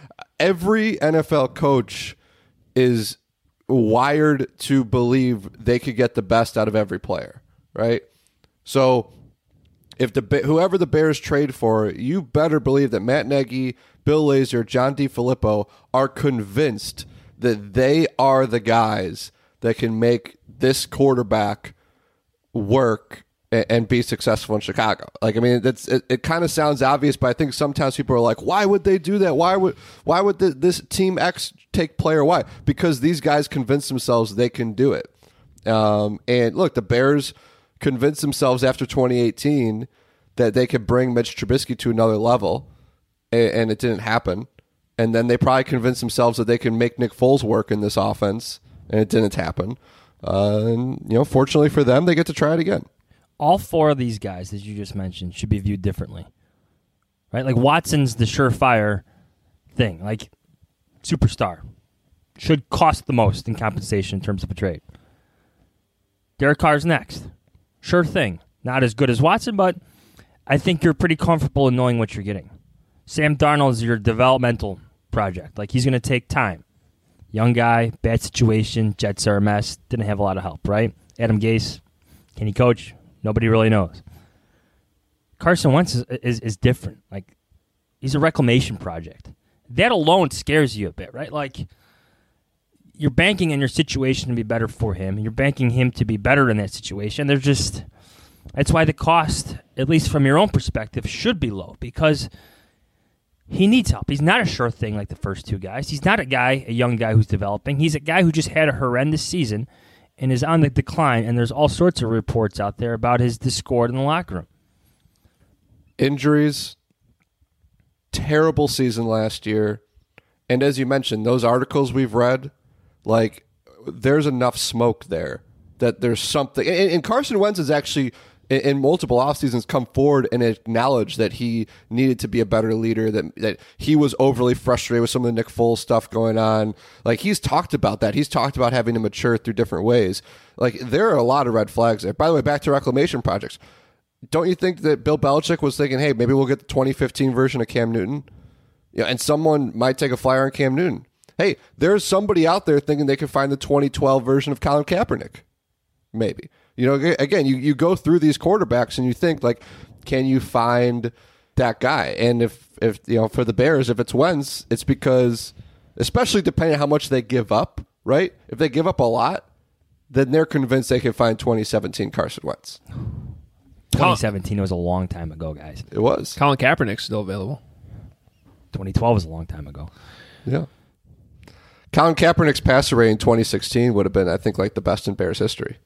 Every N F L coach is wired to believe they could get the best out of every player, right? So if the whoever the Bears trade for, you better believe that Matt Nagy, Bill Lazor, John DeFilippo are convinced that they are the guys that can make this quarterback work and be successful in Chicago. Like, I mean, that's it, it kind of sounds obvious, but I think sometimes people are like, why would they do that? Why would why would the, this team X take player Y? Because these guys convince themselves they can do it. Um, and look, the Bears convinced themselves after twenty eighteen that they could bring Mitch Trubisky to another level, and, and it didn't happen. And then they probably convinced themselves that they can make Nick Foles work in this offense, and it didn't happen. Uh, and, you know, fortunately for them, they get to try it again. All four of these guys that you just mentioned should be viewed differently, right? Like, Watson's the surefire thing, like superstar, should cost the most in compensation in terms of a trade. Derek Carr's next, sure thing, not as good as Watson, but I think you're pretty comfortable in knowing what you're getting. Sam Darnold is your developmental project, like, he's going to take time. Young guy, bad situation, Jets are a mess, didn't have a lot of help, right? Adam Gase, can he coach? Nobody really knows. Carson Wentz is, is is different. Like, he's a reclamation project. That alone scares you a bit, right? Like, you're banking in your situation to be better for him. You're banking him to be better in that situation. There's just, that's why the cost, at least from your own perspective, should be low, because he needs help. He's not a sure thing like the first two guys. He's not a guy, a young guy who's developing. He's a guy who just had a horrendous season and is on the decline, and there's all sorts of reports out there about his discord in the locker room. Injuries, terrible season last year, and as you mentioned, those articles we've read, like, there's enough smoke there that there's something. And, and Carson Wentz has actually, in, in multiple off seasons, come forward and acknowledged that he needed to be a better leader, that that he was overly frustrated with some of the Nick Foles stuff going on. Like, he's talked about that. He's talked about having to mature through different ways. Like, there are a lot of red flags there. By the way, back to reclamation projects. Don't you think that Bill Belichick was thinking, hey, maybe we'll get the twenty fifteen version of Cam Newton? Yeah, and someone might take a flyer on Cam Newton. Hey, there's somebody out there thinking they could find the twenty twelve version of Colin Kaepernick. Maybe. You know, again, you, you go through these quarterbacks and you think, like, can you find that guy? And if, if you know, for the Bears, if it's Wentz, it's because, especially depending on how much they give up, right? If they give up a lot, then they're convinced they can find twenty seventeen Carson Wentz. twenty seventeen was a long time ago, guys. It was. Colin Kaepernick's still available. twenty twelve was a long time ago. Yeah. Colin Kaepernick's passer rate in twenty sixteen would have been, I think, like the best in Bears history.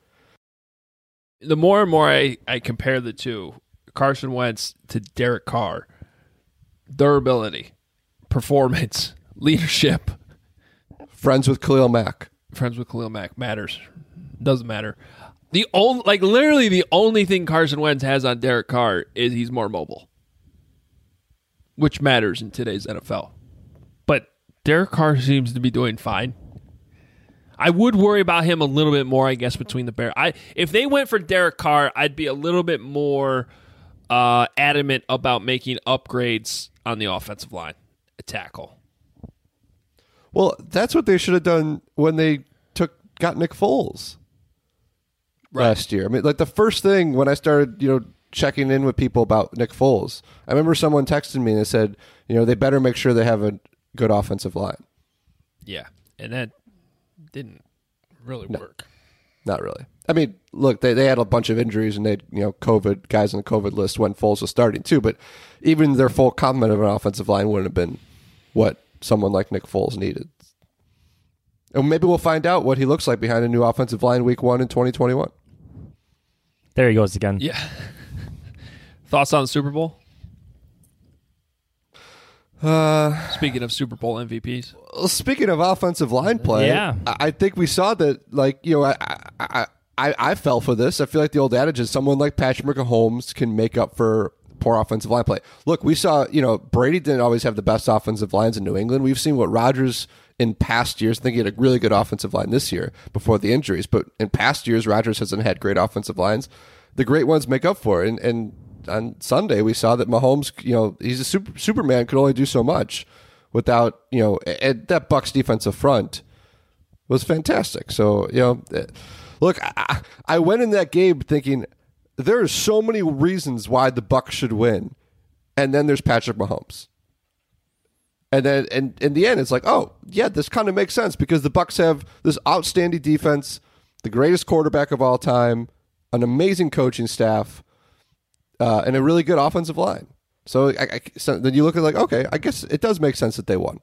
The more and more I, I compare the two, Carson Wentz to Derek Carr, durability, performance, leadership. Friends with Khalil Mack. Friends with Khalil Mack matters. Doesn't matter. The only, like, literally the only thing Carson Wentz has on Derek Carr is he's more mobile, which matters in today's N F L. But Derek Carr seems to be doing fine. I would worry about him a little bit more, I guess, between the Bears. I if they went for Derek Carr, I'd be a little bit more uh, adamant about making upgrades on the offensive line, a tackle. Well, that's what they should have done when they took got Nick Foles Right. last year. I mean, like the first thing when I started, you know, checking in with people about Nick Foles, I remember someone texted me and they said, you know, they better make sure they have a good offensive line. Yeah, and that didn't really No. work. Not really. I mean, look, they, they had a bunch of injuries and they, you know, COVID guys on the COVID list when Foles was starting too. But even their full complement of an offensive line wouldn't have been what someone like Nick Foles needed. And maybe we'll find out what he looks like behind a new offensive line week one in twenty twenty-one. There he goes again. Yeah. Thoughts on the Super Bowl? Uh, Speaking of Super Bowl M V Ps. well, speaking of offensive line play, Yeah. I, I think we saw that. Like, you know, I, I I I fell for this. I feel like the old adage is someone like Patrick Mahomes can make up for poor offensive line play. Look, we saw, you know, Brady didn't always have the best offensive lines in New England. We've seen what Rodgers in past years. I think he had a really good offensive line this year before the injuries, but in past years, Rodgers hasn't had great offensive lines. The great ones make up for it. And, and on Sunday, we saw that Mahomes, you know, he's a super, Superman, could only do so much without, you know, and that Bucs defensive front was fantastic. So, you know, look, I, I went in that game thinking there are so many reasons why the Bucs should win, and then there's Patrick Mahomes. And then and in the end, it's like, oh, yeah, this kind of makes sense because the Bucs have this outstanding defense, the greatest quarterback of all time, an amazing coaching staff, uh, and a really good offensive line. So, I, I, so then you look at like, okay, I guess it does make sense that they won.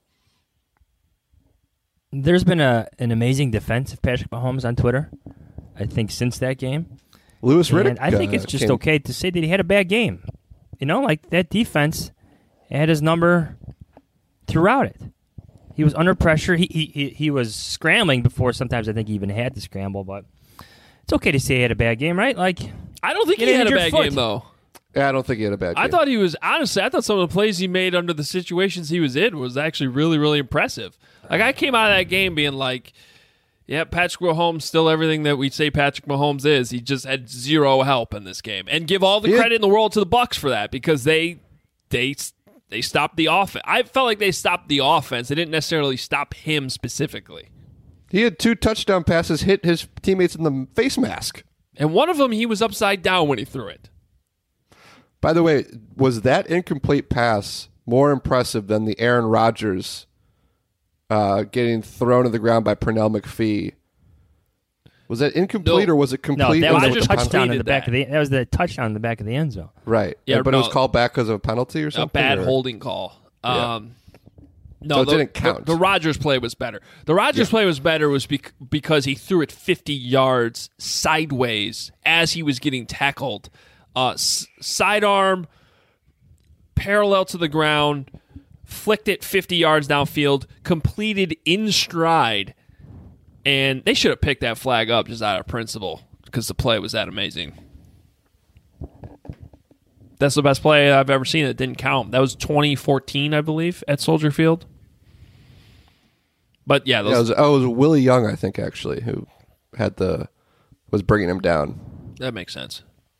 There's been a an amazing defense of Patrick Mahomes on Twitter, I think, since that game. Lewis Riddick. And I think uh, it's just came- okay to say that he had a bad game. You know, like that defense had his number throughout it. He was under pressure. He he he, he was scrambling before. Sometimes I think he even had to scramble, but it's okay to say he had a bad game, right? Like, I don't think Get he an had a injured bad foot. game, though. Yeah, I don't think he had a bad game. I thought he was, honestly, I thought some of the plays he made under the situations he was in was actually really, really impressive. Like, I came out of that game being like, yeah, Patrick Mahomes still everything that we say Patrick Mahomes is. He just had zero help in this game. And give all the Yeah. credit in the world to the Bucs for that because they they they stopped the offense. I felt like they stopped the offense. They didn't necessarily stop him specifically. He had two touchdown passes hit his teammates in the face mask. And one of them, he was upside down when he threw it. By the way, was that incomplete pass more impressive than the Aaron Rodgers uh, getting thrown to the ground by Pernell McPhee? Was that incomplete No. or was it no, complete? that Or was it a Rodgers pen- touchdown in the completed back that. of the. That was the touchdown in the back of the end zone. Right. Yeah, but it was no. called back because of a penalty or A something? bad or- holding call. Yeah. Um, no, So it the, didn't count. The, the Rodgers play was better. The Rodgers play was better was bec- because he threw it fifty yards sideways as he was getting tackled. Uh, s- sidearm, parallel to the ground, flicked it fifty yards downfield, completed in stride, and they should have picked that flag up just out of principle because the play was that amazing. That's the best play I've ever seen that didn't count. That was twenty fourteen, I believe, at Soldier Field. But yeah, those, Yeah, it was, oh, it was Willie Young, I think, actually, who had the was bringing him down. that makes sense.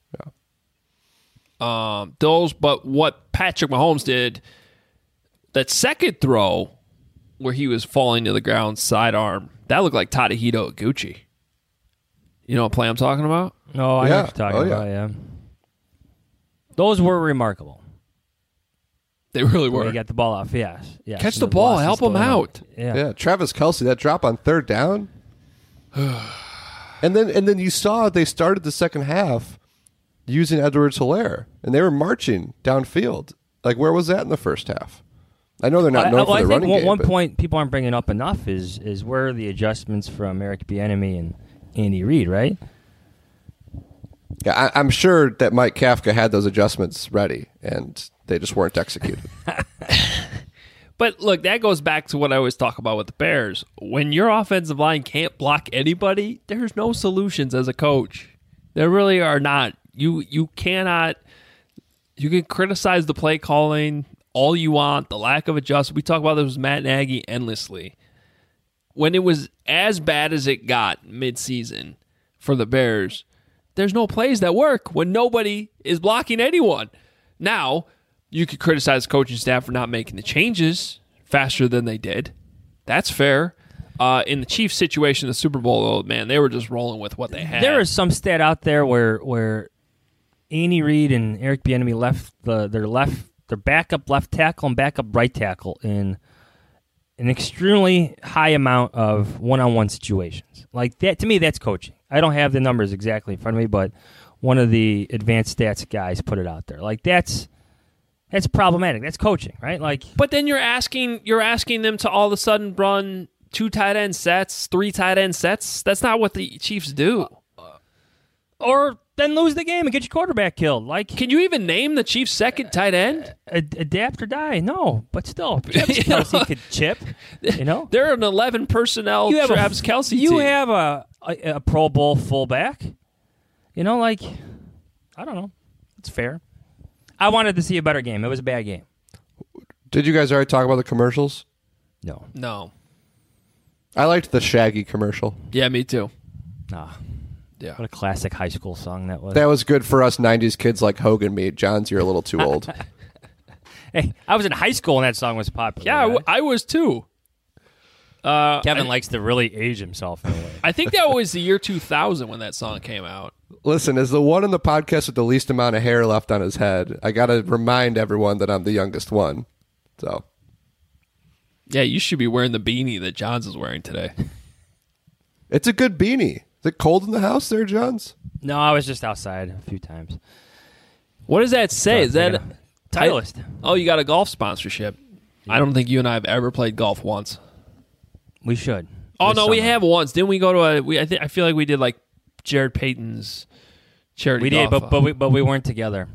Yeah. Um, those, but what Patrick Mahomes did, that second throw where he was falling to the ground, sidearm, that looked like Tadahito Iguchi. You know what play I'm talking about? No, I know Yeah. what you're talking Oh, yeah. about. Yeah, those were remarkable. They really Where were. he got the ball off. Yes, yes. Catch and the ball, velocity help still him in out. Yeah. Yeah, Travis Kelce, that drop on third down. and then and then you saw they started the second half using Edwards-Helaire, and they were marching downfield. Like, where was that in the first half? I know they're not I, known I, for I their think running one, game. one but- point people aren't bringing up enough is is where are the adjustments from Eric Bieniemy and Andy Reid, right? Yeah, I, I'm sure that Mike Kafka had those adjustments ready, and they just weren't executed. But look, that goes back to what I always talk about with the Bears. When your offensive line can't block anybody, there's no solutions as a coach. There really are not. You you cannot. You can criticize the play calling all you want, the lack of adjustment. We talk about this with Matt Nagy endlessly. When it was as bad as it got midseason for the Bears, there's no plays that work when nobody is blocking anyone. Now, you could criticize the coaching staff for not making the changes faster than they did. That's fair. Uh, in the Chiefs situation, the Super Bowl, though, man, they were just rolling with what they had. There is some stat out there where where Andy Reid and Eric Bieniemy left the their left their backup left tackle and backup right tackle in an extremely high amount of one-on-one situations. Like that, to me, that's coaching. I don't have the numbers exactly in front of me, but one of the advanced stats guys put it out there. Like that's that's problematic. That's coaching, right? Like, but then you're asking you're asking them to all of a sudden run two tight end sets, three tight end sets. That's not what the Chiefs do. Or then lose the game and get your quarterback killed. Like, can you even name the Chiefs' second tight end? Ad- adapt or die? No, but still, Travis Kelce could chip. You know, they're an eleven personnel you have Travis a, Kelce. You team. have a, a a Pro Bowl fullback. You know, like I don't know. It's fair. I wanted to see a better game. It was a bad game. Did you guys already talk about the commercials? No, no. I liked the Shaggy commercial. Yeah, me too. Ah. Yeah. What a classic high school song that was. That was good for us nineties kids like Hogan me. John's, you're a little too old. Hey, I was in high school when that song was popular. Yeah, I, w- I was too. Uh, Kevin I, likes to really age himself in a way. I think that was the year two thousand when that song came out. Listen, as the one in the podcast with the least amount of hair left on his head, I got to remind everyone that I'm the youngest one. So, yeah, you should be wearing the beanie that Johns is wearing today. It's a good beanie. Is it cold in the house there, Johns? No, I was just outside a few times. What does that say? Is that Titleist? Oh, you got a golf sponsorship. Yeah. I don't think you and I have ever played golf once. We should. Oh this no, summer. we have once. Didn't we go to a? We I think I feel like we did like Jared Payton's charity. We did, golf. but but we but we weren't together.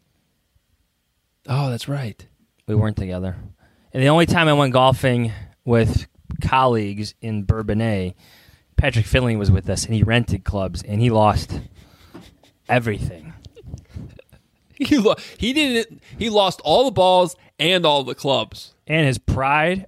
Oh, that's right. We weren't together. And the only time I went golfing with colleagues in Bourbonnais, Patrick Finley was with us, and he rented clubs, and he lost everything. He lo- he didn't. He lost all the balls and all the clubs and his pride.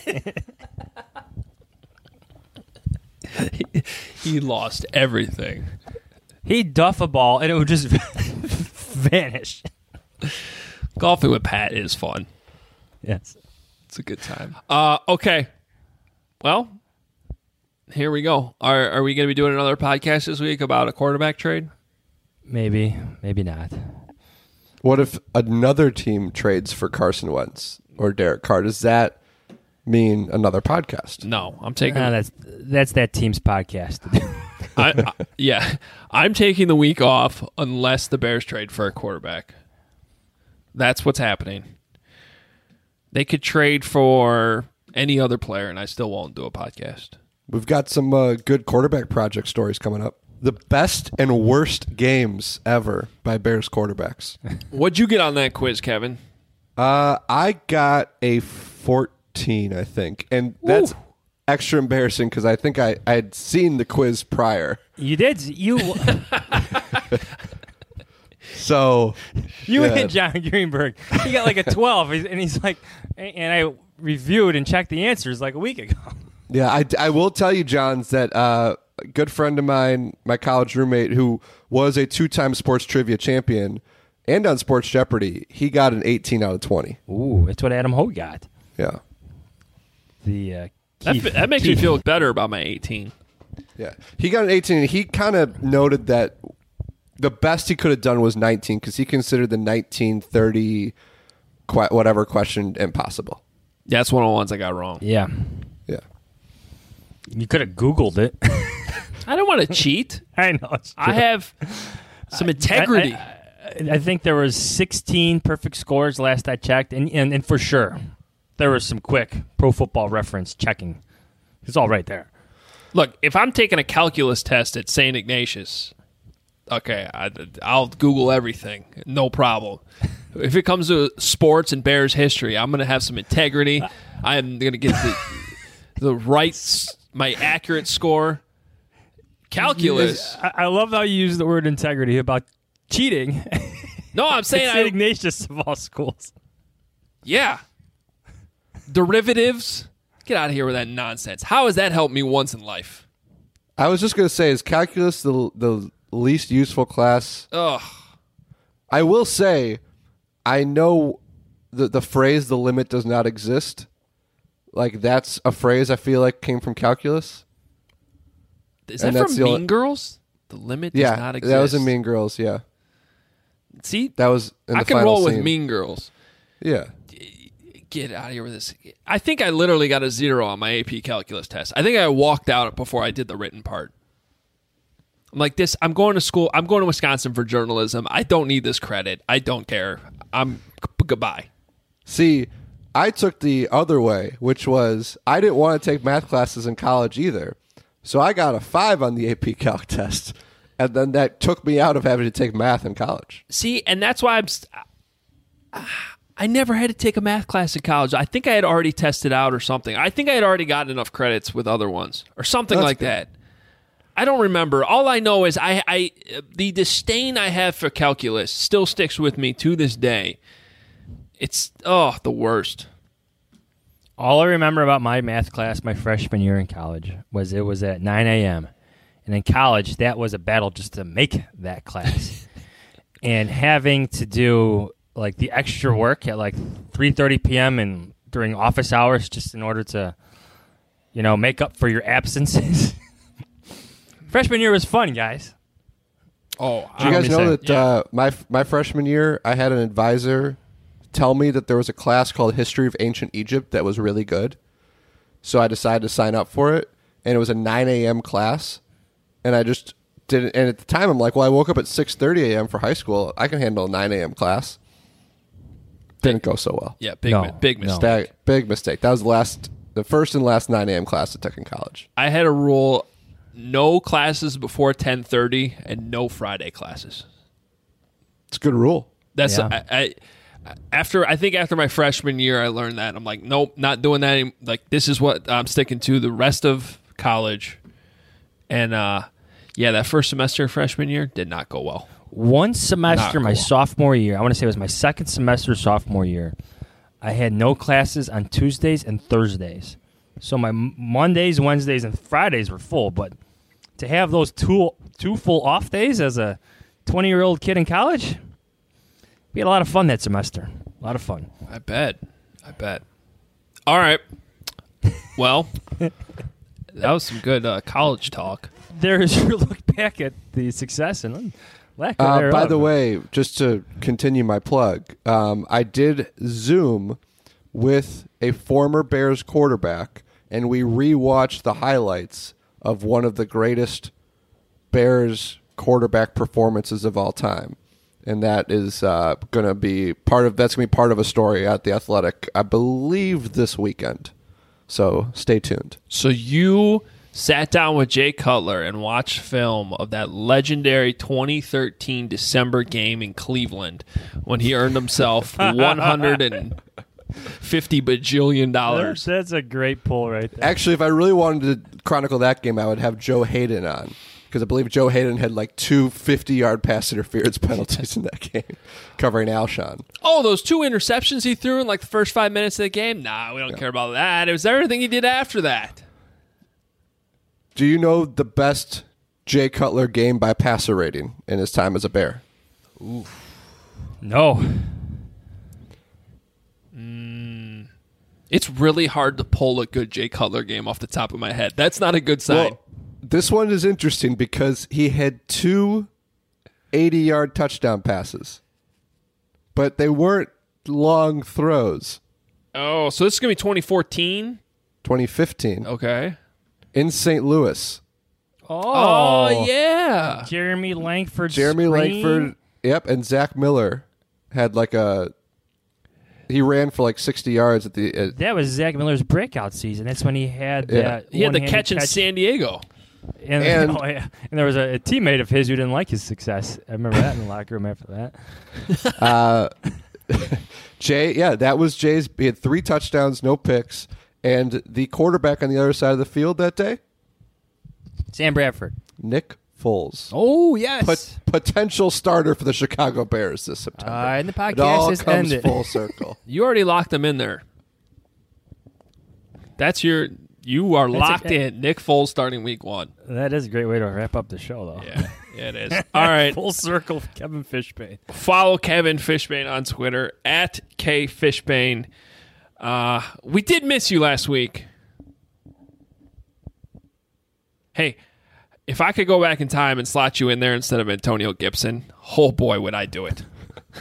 he, he lost everything. He'd duff a ball, and it would just vanish. Golfing with Pat is fun. Yes, it's a good time. Uh, okay, well. Here we go. Are are we going to be doing another podcast this week about a quarterback trade? Maybe, maybe not. What if another team trades for Carson Wentz or Derek Carr? Does that mean another podcast? No, I'm taking. Uh, that's that's that team's podcast. I, I, yeah, I'm taking the week off unless the Bears trade for a quarterback. That's what's happening. They could trade for any other player, and I still won't do a podcast. We've got some uh, good quarterback project stories coming up. The best and worst games ever by Bears quarterbacks. What'd you get on that quiz, Kevin? Uh, I got a fourteen, I think. And that's Ooh. extra embarrassing because I think I had seen the quiz prior. You did? You... so... You yeah. and John Greenberg. He got like a twelve, and he's like... And I reviewed and checked the answers like a week ago. Yeah, I, I will tell you, Johns, that uh, a good friend of mine, my college roommate, who was a two-time sports trivia champion and on Sports Jeopardy, he got an eighteen out of twenty. Ooh, that's what Adam Hogue got. Yeah. The uh, that, Keith, that makes Keith. me feel better about my eighteen. Yeah, he got an eighteen, and he kind of noted that the best he could have done was nineteen because he considered the nineteen thirty qu- whatever question impossible. Yeah, that's one of the ones I got wrong. Yeah. Yeah. You could have Googled it. I don't want to cheat. I know. It's true. I have some integrity. I, I, I think there was sixteen perfect scores last I checked, and, and, and for sure, there was some quick Pro Football Reference checking. It's all right there. Look, if I'm taking a calculus test at Saint Ignatius, okay, I, I'll Google everything. No problem. If it comes to sports and Bears history, I'm going to have some integrity. I'm going to get the the right, my accurate score. Calculus. I, I love how you use the word integrity about cheating. No, I'm saying Saint I, Ignatius of all schools. Yeah. Derivatives? Get out of here with that nonsense. How has that helped me once in life? I was just going to say, is calculus the the least useful class? Ugh. I will say, I know the the phrase "the limit does not exist." Like that's a phrase I feel like came from calculus. Is that And that's from the Mean only- Girls? The limit does Yeah, not exist. that was in Mean Girls. Yeah, See, that was. In I the can final roll with scene. Mean Girls. Yeah, Get out of here with this. I think I literally got a zero on my A P calculus test. I think I walked out before I did the written part. I'm like this. I'm going to school. I'm going to Wisconsin for journalism. I don't need this credit. I don't care. I'm g- goodbye. See, I took the other way, which was I didn't want to take math classes in college either. So I got a five on the A P Calc test. And then that took me out of having to take math in college. See, and that's why I'm. St- I never had to take a math class in college. I think I had already tested out or something. I think I had already gotten enough credits with other ones or something That's like good. that. I don't remember. All I know is I, I, the disdain I have for calculus still sticks with me to this day. It's oh the worst. All I remember about my math class my freshman year in college was it was at nine a.m. And in college, that was a battle just to make that class. And having to do like the extra work at like three thirty p.m. and during office hours just in order to, you know, make up for your absences. Freshman year was fun, guys. Oh, Do you guys know that uh, my my freshman year, I had an advisor tell me that there was a class called History of Ancient Egypt that was really good. So I decided to sign up for it, and it was a nine a.m. class, and I just didn't. And at the time, I'm like, well, I woke up at six thirty a.m. for high school. I can handle a nine a.m. class. Didn't go so well. Yeah, big No, mi- big no. mistake. That, big mistake. That was the last, the first and last nine a.m. class I took in college. I had a rule: no classes before ten thirty and no Friday classes. It's a good rule. That's Yeah. I, I after I think after my freshman year I learned that. I'm like, nope, not doing that any, like this is what I'm sticking to the rest of college. And uh yeah, that first semester of freshman year did not go well. One semester, Not my cool. sophomore year, I want to say it was my second semester sophomore year, I had no classes on Tuesdays and Thursdays. So my M- Mondays, Wednesdays, and Fridays were full. But to have those two two full off days as a twenty-year-old kid in college, we had a lot of fun that semester. A lot of fun. I bet. I bet. All right. Well, that was some good uh, college talk. There's your look back at the success and lack of Uh, thereof. by the way, just to continue my plug, um, I did Zoom with a former Bears quarterback, and we rewatched the highlights of one of the greatest Bears quarterback performances of all time. And that is uh, going to be part of that's going to be part of a story at the Athletic, I believe, this weekend. So stay tuned. So you sat down with Jay Cutler and watched film of that legendary twenty thirteen December game in Cleveland when he earned himself one hundred fifty bajillion dollars. That's a great pull right there. Actually, if I really wanted to chronicle that game, I would have Joe Hayden on. Because I believe Joe Hayden had like two fifty-yard pass interference penalties in that game, covering Alshon. Oh, those two interceptions he threw in like the first five minutes of the game? Nah, we don't care about that. It was everything he did after that. Do you know the best Jay Cutler game by passer rating in his time as a Bear? No. It's really hard to pull a good Jay Cutler game off the top of my head. That's not a good sign. Well, this one is interesting because he had two eighty-yard touchdown passes, but they weren't long throws. oh, so this is going to be twenty fourteen? twenty fifteen Okay. in Saint Louis. Oh, Oh, yeah. Jeremy Langford. Jeremy screen. Langford, yep, and Zach Miller had like a. He ran for like sixty yards at the. Uh, That was Zach Miller's breakout season. That's when he had Yeah. that He had the one-handed catch in San Diego. And, And- oh, yeah. and there was a, a teammate of his who didn't like his success. I remember that in the locker room after that. uh, Jay, yeah, that was Jay's. He had three touchdowns, no picks, and the quarterback on the other side of the field that day, Sam Bradford. Nick Foles. Oh, yes. Pot- potential starter for the Chicago Bears this September. Uh, and the podcast it all has comes ended. full circle. You already locked him in there. That's your. You are That's locked a- in. Nick Foles starting week one. That is a great way to wrap up the show, though. Yeah, yeah it is. All right. Full circle, Kevin Fishbane. Follow Kevin Fishbane on Twitter at K Fishbane. Uh, we did miss you last week. Hey, if I could go back in time and slot you in there instead of Antonio Gibson, oh boy, would I do it.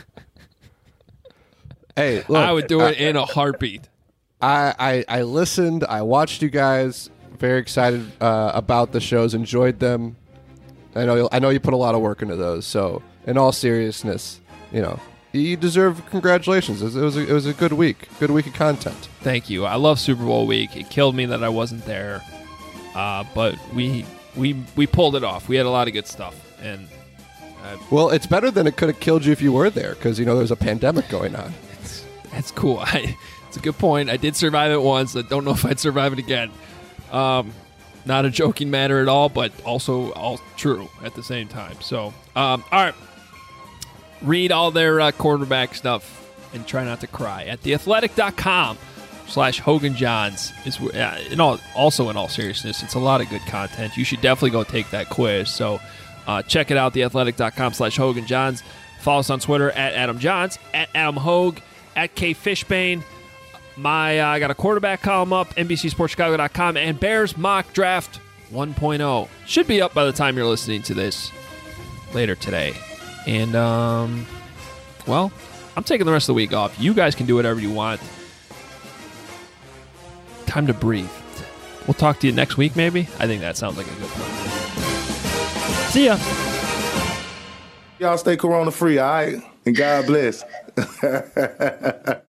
Hey, look, I would do it I, in a heartbeat. I, I, I listened. I watched you guys. Very excited uh, about the shows. Enjoyed them. I know. I know you put a lot of work into those. So, in all seriousness, you know, you deserve congratulations. It was, it was, a, it was a good week. Good week of content. Thank you. I love Super Bowl week. It killed me that I wasn't there, uh, but we we we pulled it off. We had a lot of good stuff, and uh, Well, it's better than it could have killed you if you were there, because you know there's a pandemic going on. it's, that's cool. I, it's a good point. I did survive it once. I don't know if I'd survive it again. Um, not a joking matter at all, but also all true at the same time. So, um, all right. Read all their uh, quarterback stuff and try not to cry at theathletic.com slash Hogan Johns. Is uh, in all, also in all seriousness, it's a lot of good content. You should definitely go take that quiz. So uh, check it out, theathletic.com slash Hogan Johns. Follow us on Twitter at Adam Johns, at Adam Hogue, at K Fishbane. My uh, I got a quarterback column up, N B C Sports Chicago dot com, and Bears Mock Draft one point oh. Should be up by the time you're listening to this later today. And, um, well, I'm taking the rest of the week off. You guys can do whatever you want. Time to breathe. We'll talk to you next week, maybe? I think that sounds like a good plan. See ya. Y'all stay corona free, all right? And God bless.